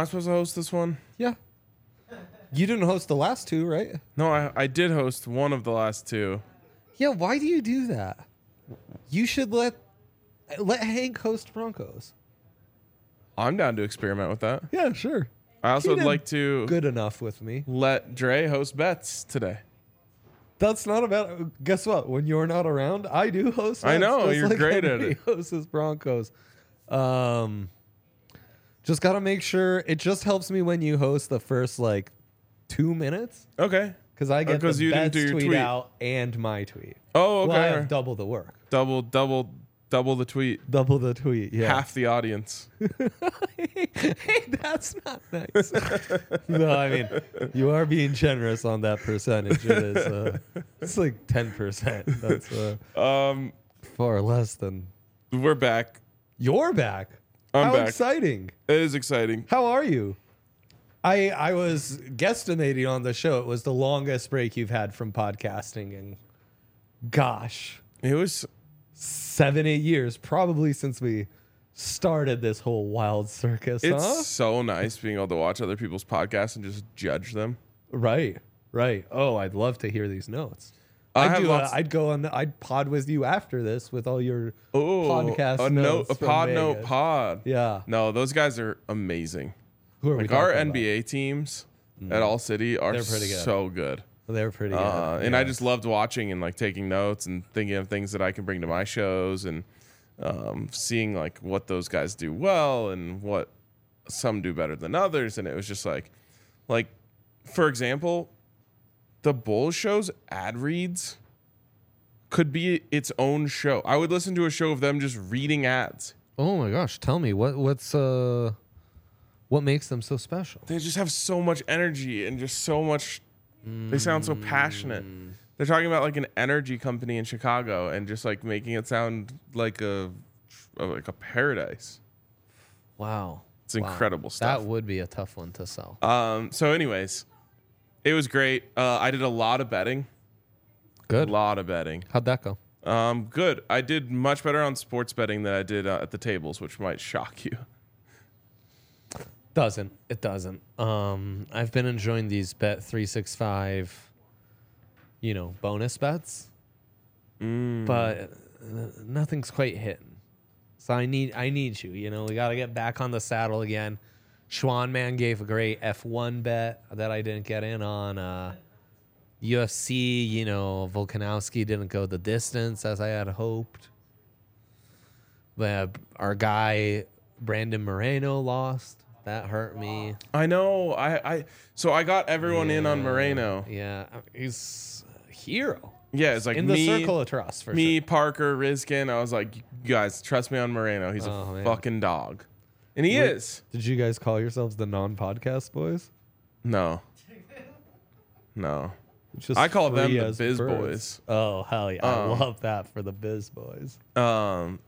supposed to host this one? Yeah. You didn't host the last two, right? No, I did host one of the last two. Yeah, why do you do that? You should let Hank host Broncos. I'm down to experiment with that. Yeah, sure. I also He would did like to good enough with me. let Dre host bets today. That's not about. Guess what? When you're not around, I do host. I know, just you're great at Henry it. Hosts his Broncos. Just gotta make sure. It just helps me when you host the first 2 minutes Okay. because I get the you didn't bets do your tweet tweet. out and my tweet. Oh, okay. Well, I have double the work, double the tweet. double the tweet. Yeah. Half the audience. Hey, that's not nice. No, I mean, you are being generous on that percentage. It is. It's like 10%. That's far less than. We're back. You're back. I'm How back. exciting! It is exciting. How are you? I was guesstimating on the show. It was the longest break you've had from podcasting, and gosh, It was 7-8 years, probably since we started this whole wild circus. it's huh? so nice being able to watch other people's podcasts and just judge them. Right. Oh, I'd love to hear these notes. I have lots- I'd pod with you after this with all your podcast a notes. a from pod note Vegas. pod. Yeah. No, those guys are amazing. Who are we Like our talking about? NBA teams at All City are They're pretty good. so good. They're pretty good. And I just loved watching and taking notes and thinking of things that I can bring to my shows and seeing what those guys do well and what some do better than others. And it was just like for example, the Bulls show's ad reads could be its own show. I would listen to a show of them just reading ads. Oh my gosh, tell me what makes them so special? They just have so much energy and just so much. They sound so passionate. They're talking about an energy company in Chicago and just making it sound like a paradise. Wow. It's incredible stuff. That would be a tough one to sell. So anyways, it was great. I did a lot of betting. Good. A lot of betting. How'd that go? Good. I did much better on sports betting than I did at the tables, which might shock you. It doesn't. I've been enjoying these Bet365, bonus bets, but nothing's quite hitting. So I need you. We got to get back on the saddle again. Schwan Man gave a great F1 bet that I didn't get in on. UFC, Volkanovski didn't go the distance as I had hoped. But our guy Brandon Moreno lost. That hurt me. I know. So I got everyone in on Moreno. Yeah, he's a hero. Yeah, it's In me, the circle of trust, for me, sure. Parker, Rizkin. I was like, you guys, trust me on Moreno. He's a man. fucking dog. And he is. Did you guys call yourselves the non-podcast boys? No. Just I call them free the as Biz birds. Boys. Oh, hell yeah. I love that for the Biz Boys. I'm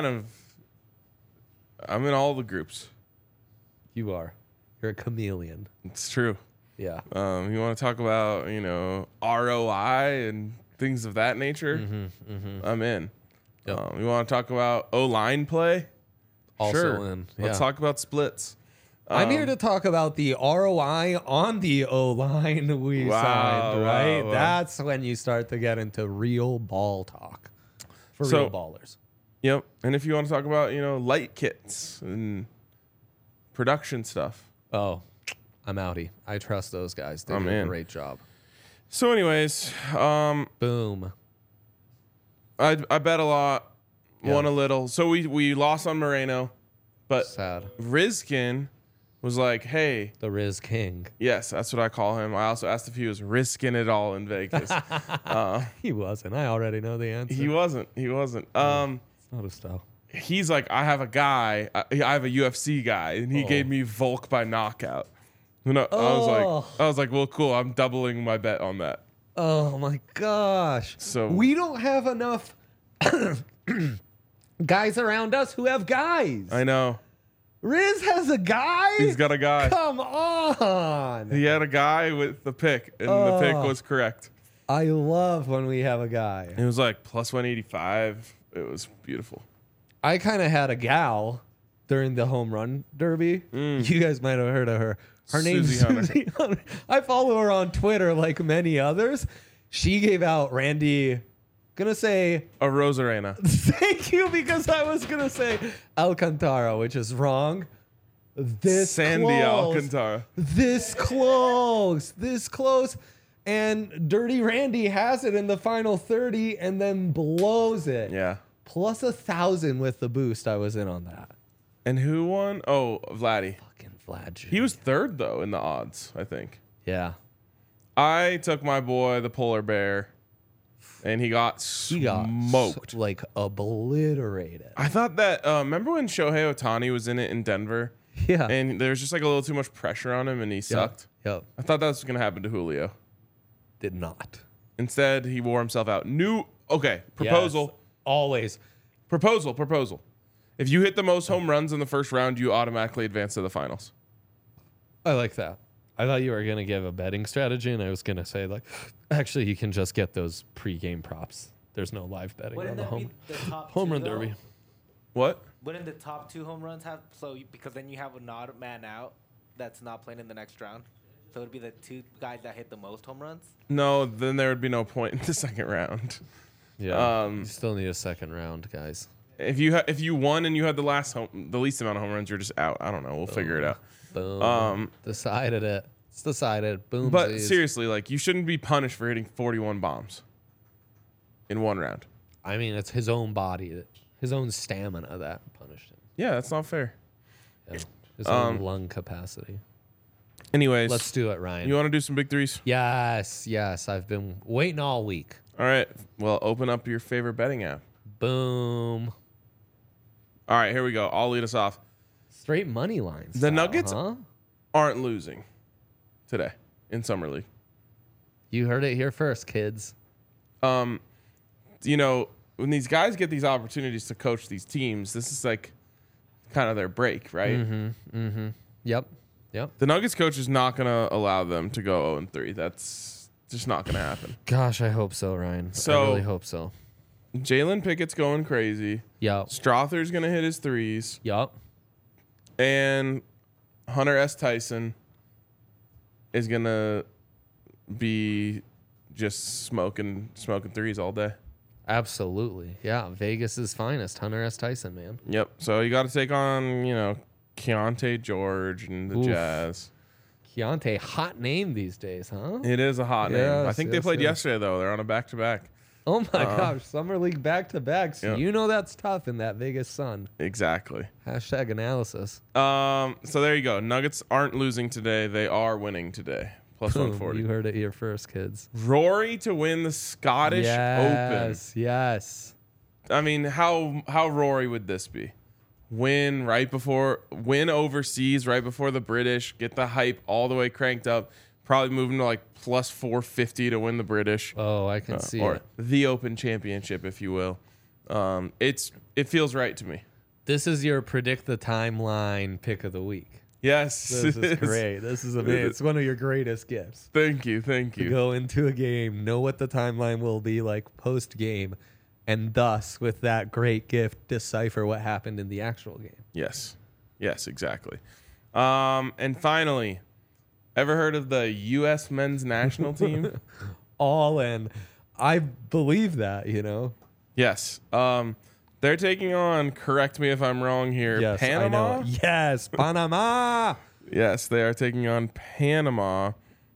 in all the groups. You are. You're a chameleon. It's true. Yeah. You want to talk about, ROI and things of that nature? I'm in. Yep. You want to talk about O-line play? Also Sure. in. Let's talk about splits. I'm here to talk about the ROI on the O-line we signed, right? wow. That's when you start to get into real ball talk for real ballers. Yep. And if you want to talk about, light kits and production stuff. Oh, I'm outie. I trust those guys. They I'm do a in. great job. So anyways, Boom. I bet a lot, Yeah. won a little. So we lost on Moreno, but Sad. Rizkin was like, hey, The Riz King. yes, that's what I call him. I also asked if he was risking it all in Vegas. He wasn't. I already know the answer. He wasn't. It's not his style. He's like, I have a guy. I have a UFC guy, and he gave me Volk by knockout. And I was like, well, cool. I'm doubling my bet on that. Oh my gosh. So- we don't have enough guys around us who have guys. I know. Riz has a guy? He's got a guy. Come on. He had a guy with the pick, and the pick was correct. I love when we have a guy. It was like plus 185. It was beautiful. I kind of had a gal during the home run derby. Mm. You guys might have heard of her. Her name's Susie Hunter. Susie Hunter. I follow her on Twitter like many others. She gave out Randy, gonna say, A Rosarena. thank you, because I was gonna say Alcantara, which is wrong. This Sandy close. Alcantara. This close. And Dirty Randy has it in the final 30 and then blows it. Yeah. Plus 1,000 with the boost. I was in on that. And who won? Oh, Vladdy. Fucking Vlad. He was third, though, in the odds, I think. Yeah. I took my boy, the polar bear, and he got He got smoked. like obliterated. I thought that, remember when Shohei Ohtani was in it in Denver? Yeah. And there was just like a little too much pressure on him and he sucked? Yep. I thought that was going to happen to Julio. Did not. Instead, he wore himself out. Proposal. Yes, always. Proposal. If you hit the most home runs in the first round, you automatically advance to the finals. I like that. I thought you were going to give a betting strategy, and I was going to say, like, actually, you can just get those pre-game props. There's no live betting on the home run derby. What? Wouldn't the top 2 home runs have because then you have an odd man out that's not playing in the next round? So it would be the 2 guys that hit the most home runs? No, then there would be no point in the second round. Yeah, you still need a second round, guys. If you won and you had the least amount of home runs, you're just out. I don't know. We'll figure it out. Boom. Decided it. It's decided. Boom. But seriously, like, you shouldn't be punished for hitting 41 bombs in one round. I mean, it's his own body, his own stamina that punished him. Yeah, that's not fair. Yeah. His own lung capacity. Anyways, Let's do it, Ryan. You want to do some big threes? Yes. I've been waiting all week. All right. Well, open up your favorite betting app. Boom. All right, here we go. I'll lead us off. Straight money lines. The Nuggets huh? aren't losing today in Summer League. You heard it here first, kids. You know, when these guys get these opportunities to coach these teams, this is like kind of their break, right? Mm-hmm. Yep. The Nuggets coach is not going to allow them to go 0-3. That's just not going to happen. Gosh, I hope so, Ryan. So- I really hope so. Jalen Pickett's going crazy. Yep. Strother's going to hit his threes. Yep. And Hunter S. Tyson is going to be just smoking threes all day. Absolutely. Yeah. Vegas's finest, Hunter S. Tyson, man. Yep. So you got to take on, Keontae George and the Oof. Jazz. Keontae, hot name these days, huh? It is a hot name. I Yes, think they yes, played yes. yesterday, though. They're on a back-to-back. Oh my gosh, Summer League back-to-back. So Yeah. you know that's tough in that Vegas sun. Exactly. Hashtag analysis. So there you go. Nuggets aren't losing today. They are winning today. Plus Boom, 140. you heard it here first, kids. Rory to win the Scottish Open. Yes. I mean, how Rory would this be? Win overseas right before the British, get the hype all the way cranked up, probably moving to like plus 450 to win the British. Oh, I can see or it. the Open Championship, if you will. It feels right to me. This is your predict the timeline pick of the week. Yes. This is great. This is amazing. It's one of your greatest gifts. Thank you. To go into a game, know what the timeline will be like post game, and thus, with that great gift, decipher what happened in the actual game. Yes, exactly. And finally, ever heard of the U.S. men's national team? All in. I believe that, Yes. They're taking on, correct me if I'm wrong here, Yes, Panama? I know. Yes, Panama. Yes, they are taking on Panama.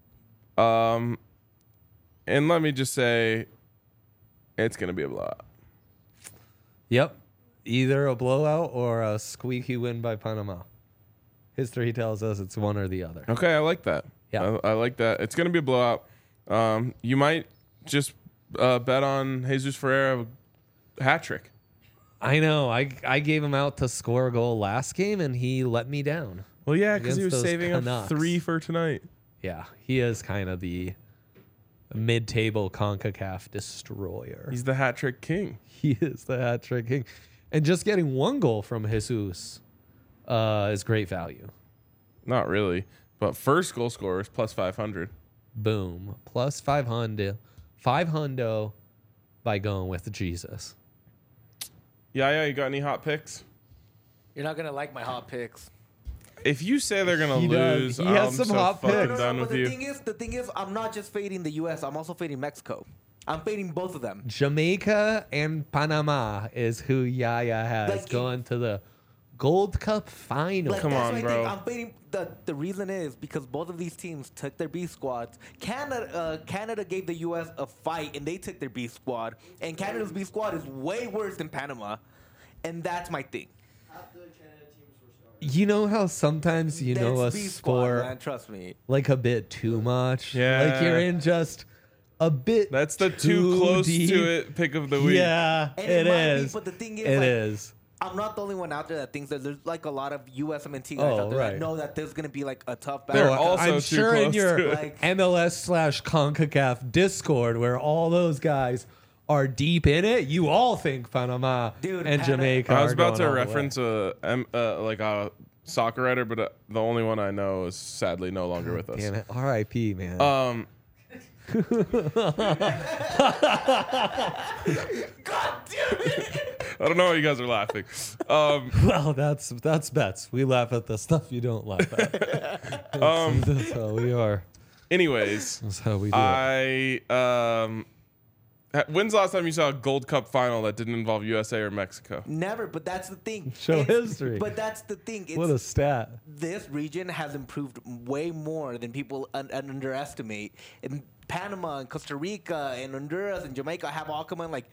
And let me just say, it's going to be a blowout. Yep. Either a blowout or a squeaky win by Panama. History tells us it's one or the other. Okay, I like that. Yeah. I like that. It's going to be a blowout. You might just bet on Jesus Ferreira hat trick. I know. I gave him out to score a goal last game, and he let me down. Well, yeah, because he Against was those saving Canucks. up 3 for tonight. Yeah, he is kind of the mid-table CONCACAF destroyer. He's the hat trick king. He is the hat trick king. And just getting one goal from Jesus is great value. Not really, but first goal scorer is plus 500. Boom. Plus 500. 500 by going with Jesus. Yeah, you got any hot picks? You're not gonna like my hot picks. If you say they're gonna He lose, does. He has I'm some so hot fucking picks. done but with you. the thing is, I'm not just fading the U.S. I'm also fading Mexico. I'm fading both of them. Jamaica and Panama is who Yaya has Like, going to the Gold Cup final. Like, Come that's on, what I bro. think. I'm fading. The reason is because both of these teams took their B squads. Canada gave the U.S. a fight, and they took their B squad. And Canada's B squad is way worse than Panama, and that's my thing. You know how sometimes you know a That's B squad, sport man. Trust me. like a bit too much. Yeah. Like you're in just a bit. That's the too close deep. to it pick of the week. Yeah, And it might be, is. but the thing is, It like, is. I'm not the only one out there that thinks that there's like a lot of USMNT guys Oh, out there right. that know that there's gonna be like a tough They're battle. also I'm too sure in close your to it. Like- MLS/CONCACAF Discord, where all those guys are deep in it, you all think Panama Dude, and Jamaica. I was are about going to all the way. reference like a soccer writer, but the only one I know is sadly no longer with us. Damn it, R.I.P. Man. I don't know why you guys are laughing. Well, that's bets. We laugh at the stuff you don't laugh at. That's how we are. Anyways, That's how we do it. when's the last time you saw a Gold Cup final that didn't involve USA or Mexico? Never, but that's the thing. Show It's- history. But that's the thing. It's, What a stat. this region has improved way more than people underestimate. And Panama and Costa Rica and Honduras and Jamaica have all come in. Like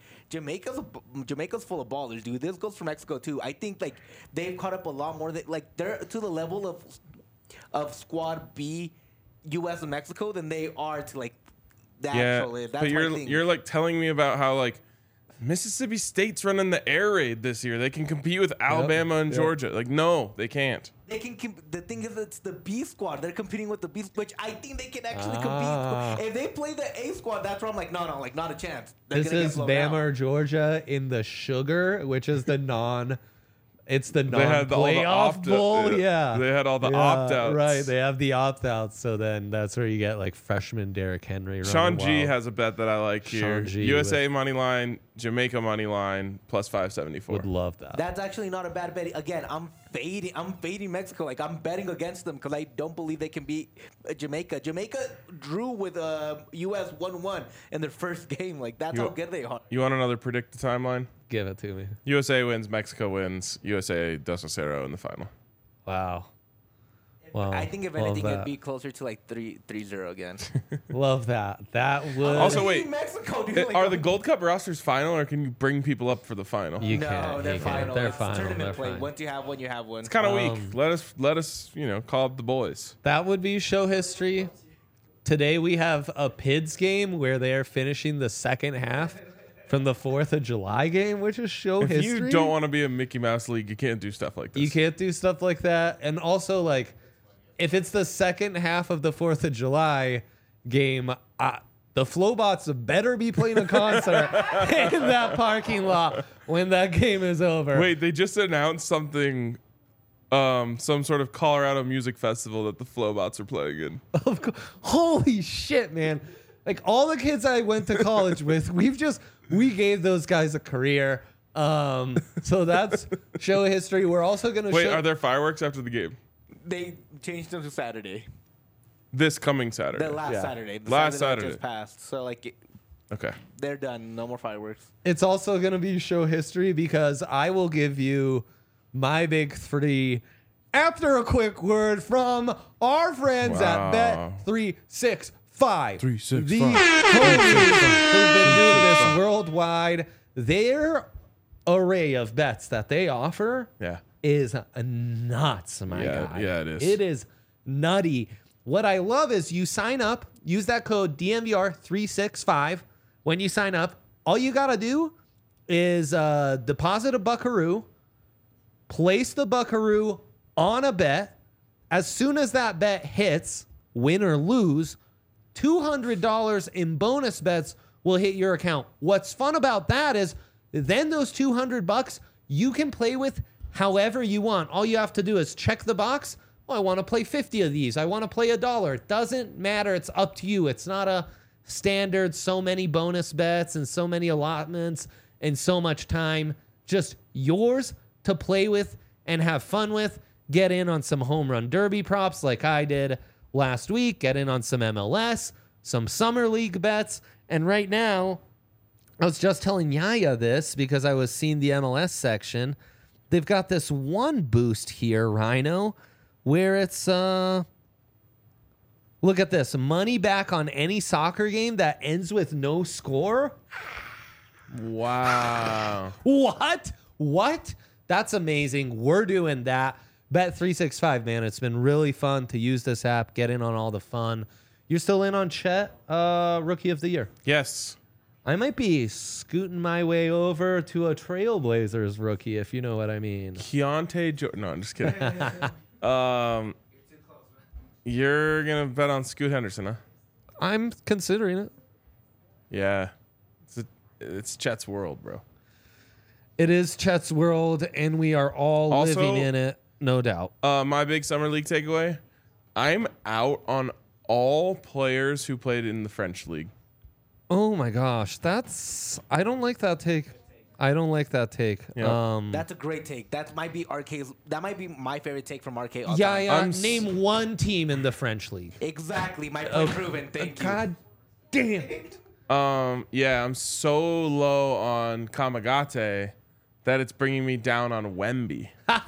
Jamaica's full of ballers, dude. This goes for Mexico too. I think like they've caught up a lot more. Like they're to the level of Squad B, U.S. and Mexico than they are to like the actual. That's but my you're thing. you're like telling me about how like Mississippi State's running the air raid this year. They can compete with Alabama and yep. Georgia. Like no, they can't. They can. The thing is, it's the B squad. They're competing with the B, which I think they can actually Ah. compete. If they play the A squad, that's where I'm like, no, like not a chance. They're This gonna get is blown Bama out. or Georgia in the sugar, which is the non. It's the They had all the non-playoff opt- bowl. Yeah. They had all the Yeah, opt-outs. Right. They have the opt-outs. So then that's where you get like freshman Derrick Henry. Sean running G wild. has a bet that I like here. Sean G USA with- money line, Jamaica money line, plus 574. Would love that. That's actually not a bad bet. Again, I'm fading Mexico. Like I'm betting against them because I don't believe they can beat Jamaica. Jamaica drew with US 1-1 in their first game. Like that's how good they are. You want another predict the timeline? Give it to me. USA wins, Mexico wins, USA does 0 in the final. Wow. Wow. I think if love anything, it'd that. be closer to like 3-0 again. Love that. That would. Also, wait. Mexico, dude. Like, Are the Gold Cup rosters final, or can you bring people up for the final? You no, can't. they're you can't. final. They're It's final. tournament They're play. fine. Once you have one, you have one. It's kind of weak. Let us, call up the boys. That would be show history. Today we have a PIDS game where they are finishing the second half from the 4th of July game, which is show If history. you don't want to be a Mickey Mouse league, you can't do stuff like this. You can't do stuff like that. And also, like, if it's the second half of the 4th of July game, the Flowbots better be playing a concert in that parking lot when that game is over. Wait, they just announced something, some sort of Colorado music festival that the Flowbots are playing in. Of course. Holy shit, man. Like, all the kids I went to college with, we gave those guys a career. So that's show history. We're also going to Wait, show. are there fireworks after the game? They changed them to Saturday. This coming Saturday. The last Yeah. Saturday. The Last Saturday that Saturday. just passed. So like Okay. they're done. No more fireworks. It's also going to be show history because I will give you my big three after a quick word from our friends Wow. at Bet365. 365. The homies who've been doing this worldwide. Their array of bets that they offer Yeah. is nuts, my guy. Yeah, it is. It is nutty. What I love is you sign up, use that code DMVR365. When you sign up, all you got to do is deposit a buckaroo, place the buckaroo on a bet. As soon as that bet hits, win or lose, $200 in bonus bets will hit your account. What's fun about that is then those $200 you can play with however you want. All you have to do is check the box. Oh, I want to play 50 of these. I want to play $1. It doesn't matter. It's up to you. It's not a standard so many bonus bets and so many allotments and so much time. Just yours to play with and have fun with. Get in on some home run derby props like I did last week. Get in on some MLS, some summer league bets. And right now, I was just telling Yaya this because I was seeing the MLS section. They've got this one boost here, Rhino, where it's look at this. Money back on any soccer game that ends with no score. Wow. What? That's amazing. We're doing that. Bet365, man. It's been really fun to use this app, get in on all the fun. You're still in on Chet, Rookie of the Year. Yes. I might be scooting my way over to a Trailblazers rookie, if you know what I mean. Keontae Jordan. No, I'm just kidding. You're going to bet on Scoot Henderson, huh? I'm considering it. Yeah. It's Chet's world, bro. It is Chet's world, and we are all Also, living in it, no doubt. My big summer league takeaway, I'm out on all players who played in the French league. Oh, my gosh. I don't like that take. Yeah. That's a great take. That might be my favorite take from RK. Yeah. Name one team in the French league. Exactly. My point proven. Thank you. God damn it. Yeah, I'm so low on Kamagate that it's bringing me down on Wemby.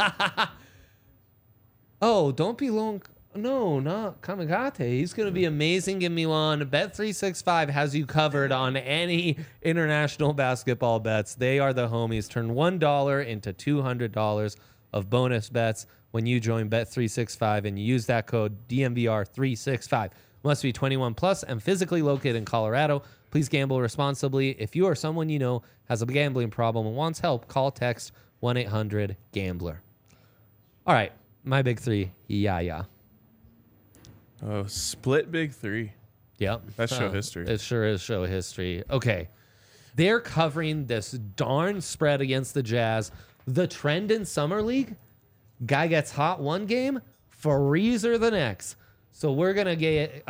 Oh, don't be long. No, not Kamagate. He's going to be amazing in Milan. Bet365 has you covered on any international basketball bets. They are the homies. Turn $1 into $200 of bonus bets when you join Bet365 and you use that code DMVR365. Must be 21 plus and physically located in Colorado. Please gamble responsibly. If you or someone you know has a gambling problem and wants help, call text 1-800-GAMBLER. All right, my big three. Yeah. Oh, split big three. Yep. That's show history. It sure is show history. Okay. They're covering this darn spread against the Jazz. The trend in Summer League, guy gets hot one game, freezer the next. So we're going to get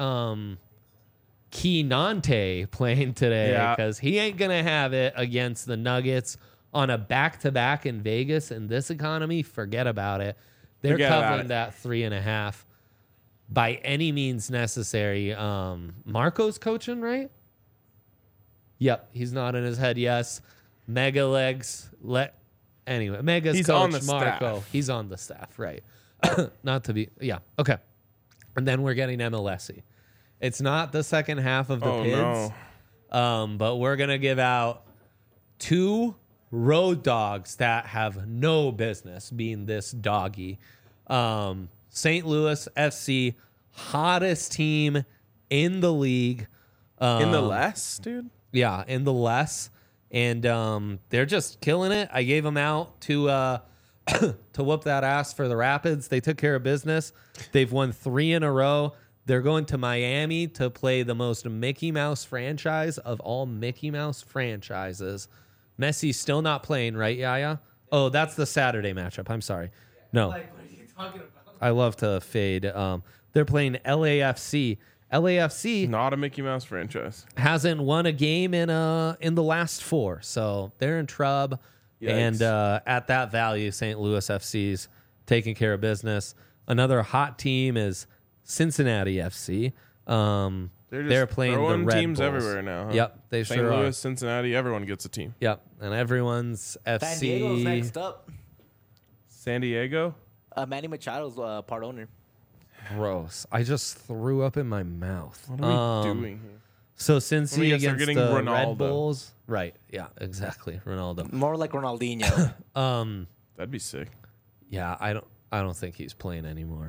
Keontae playing today because he ain't going to have it against the Nuggets on a back-to-back in Vegas in this economy. Forget about it. They're covering that 3.5 by any means necessary. Marco's coaching, right? Yep, he's nodding his head yes. Mega legs. Anyway, Mega's he's coach, on the Marco. staff. He's on the staff, right. Not to be, yeah, okay. And then we're getting MLSy. It's not the second half of the PIDs, but we're going to give out 2 road dogs that have no business being this doggy. St. Louis FC, hottest team in the league. In the less, dude? Yeah, in the less. And they're just killing it. I gave them out to whoop that ass for the Rapids. They took care of business. They've won 3 in a row. They're going to Miami to play the most Mickey Mouse franchise of all Mickey Mouse franchises. Messi's still not playing, right, Yaya? Oh, that's the Saturday matchup. I'm sorry. No. Like, what are you talking about? I love to fade. They're playing LAFC. LAFC Not a Mickey Mouse franchise. hasn't won a game in the last 4, so they're in trub. Yikes. And at that value, St. Louis FC's taking care of business. Another hot team is Cincinnati FC. They're playing the throwing Red teams Bulls. everywhere now. Huh? Yep, they St. sure Louis, are. Cincinnati, everyone gets a team. Yep, and everyone's FC. San Diego's next up. San Diego? Manny Machado's part owner. Gross. I just threw up in my mouth. What are we doing here? So Cincy Let me guess, they're against getting the Red Ronaldo. Bulls. Right. Yeah, exactly. Ronaldo. More like Ronaldinho. That'd be sick. Yeah, I don't think he's playing anymore.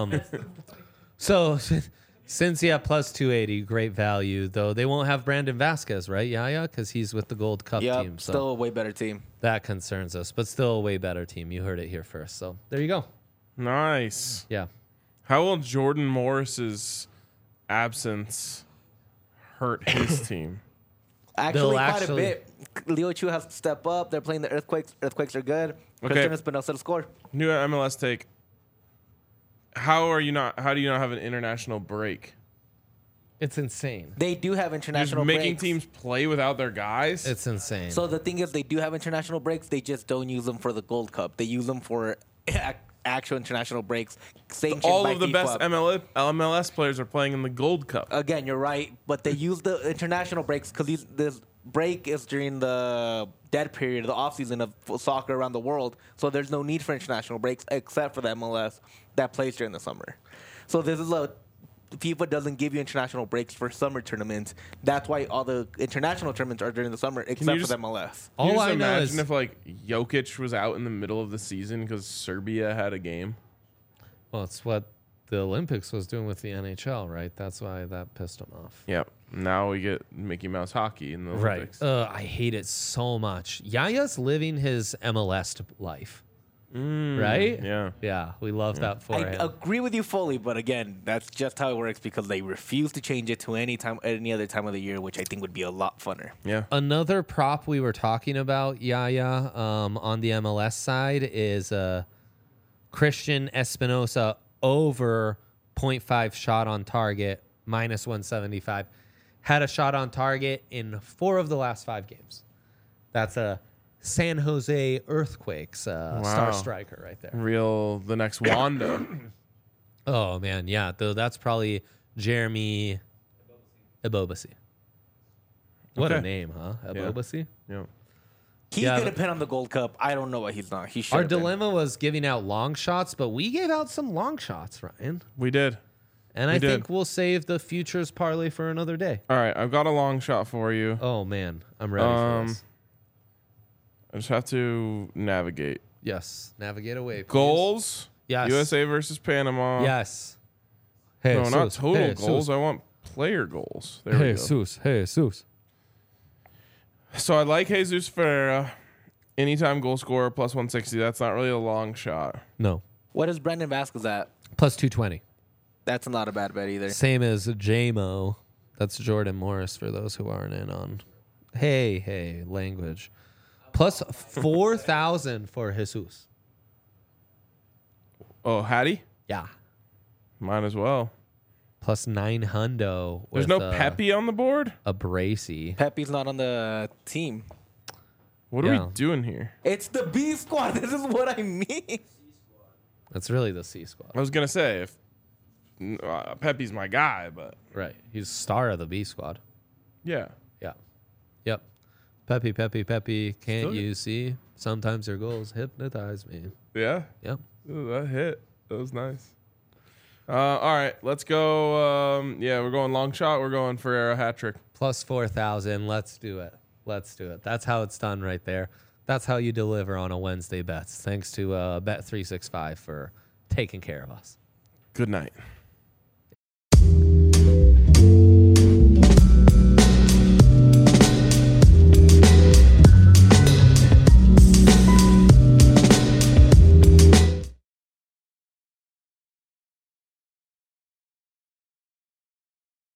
So Cincy at plus 280, great value, though they won't have Brandon Vasquez, right? Yeah, because he's with the Gold Cup Yep, team. So still a way better team. that concerns us, but still a way better team. You heard it here first. So there you go. Nice. Yeah. How will Jordan Morris's absence hurt his team? Actually, quite actually- a bit. Leo Chu has to step up. They're playing the Earthquakes. Earthquakes are good. Christian Espinosa to score. New MLS take. How do you not have an international break? It's insane. They do have You're just international making breaks. teams play without their It's guys? insane. So the thing is, they do have international breaks. They just don't use them for the Gold Cup. They use them for actual international breaks sanctioned All by of the FIFA. best MLS players are playing in the Gold Cup. Again, you're right, but they use the international breaks because this break is during the dead period, the off season of soccer around the world. So there's no need for international breaks except for the MLS that plays during the summer. So this is FIFA doesn't give you international breaks for summer tournaments. That's why all the international tournaments are during the summer, except for the MLS. Can you All just I know imagine is if like Jokic was out in the middle of the season because Serbia had a game? well, it's what the Olympics was doing with the NHL, right? That's why that pissed them off. Yep. Now we get Mickey Mouse hockey in the Olympics. I hate it so much. Yaya's living his MLS life. Right? Yeah. Yeah, we love that for I him. agree with you fully, but again, that's just how it works because they refuse to change it to any other time of the year, which I think would be a lot funner. Yeah. Another prop we were talking about, Yaya, on the MLS side is Christian Espinosa over 0.5 shot on target, minus 175. Had a shot on target in 4 of the last 5 games. That's a San Jose Earthquakes star striker right there. The next Wanda. Oh, man, yeah. Though that's probably Jeremy Ebobisse. What a Okay. name, huh? Ebobisse? Yeah. He's Yeah, going to but- pin on the Gold Cup. I don't know why he's not. He should. Our dilemma was giving out long shots, but we gave out some long shots, Ryan. We did. And We I did. think we'll save the futures parlay for another day. All right. I've got a long shot for you. Oh, man. I'm ready for this. I just have to navigate. Yes. Navigate away, please. Goals. Yes. USA versus Panama. Yes. Hey, No, not total goals. I want player goals. There we go. Jesus. So I like Jesus Ferreira. Anytime goal scorer plus 160. That's not really a long shot. No. What is Brendan Vasquez at? Plus 220. That's not a bad bet either. Same as JMO. That's Jordan Morris for those who aren't in on. Hey, language. Plus 4,000 for Jesus. Oh, Hattie? Yeah. Might as well. Plus 900. There's no Pepe on the board? A Bracy. Pepe's not on the team. What are Yeah. we doing here? It's the B squad. This is what I mean. That's really the C squad. I was going to say, if Pepe's my guy, but Right. He's star of the B squad. yeah. Yeah. Yep. Pepe. Can't Still- you see? Sometimes your goals hypnotize me. Yeah. Yep. Ooh, that hit. That was nice. All right. Let's go. We're going long shot. We're going Ferreira hat trick. Plus 4,000. Let's do it. That's how it's done right there. That's how you deliver on a Wednesday bets. Thanks to Bet365 for taking care of us. Good night.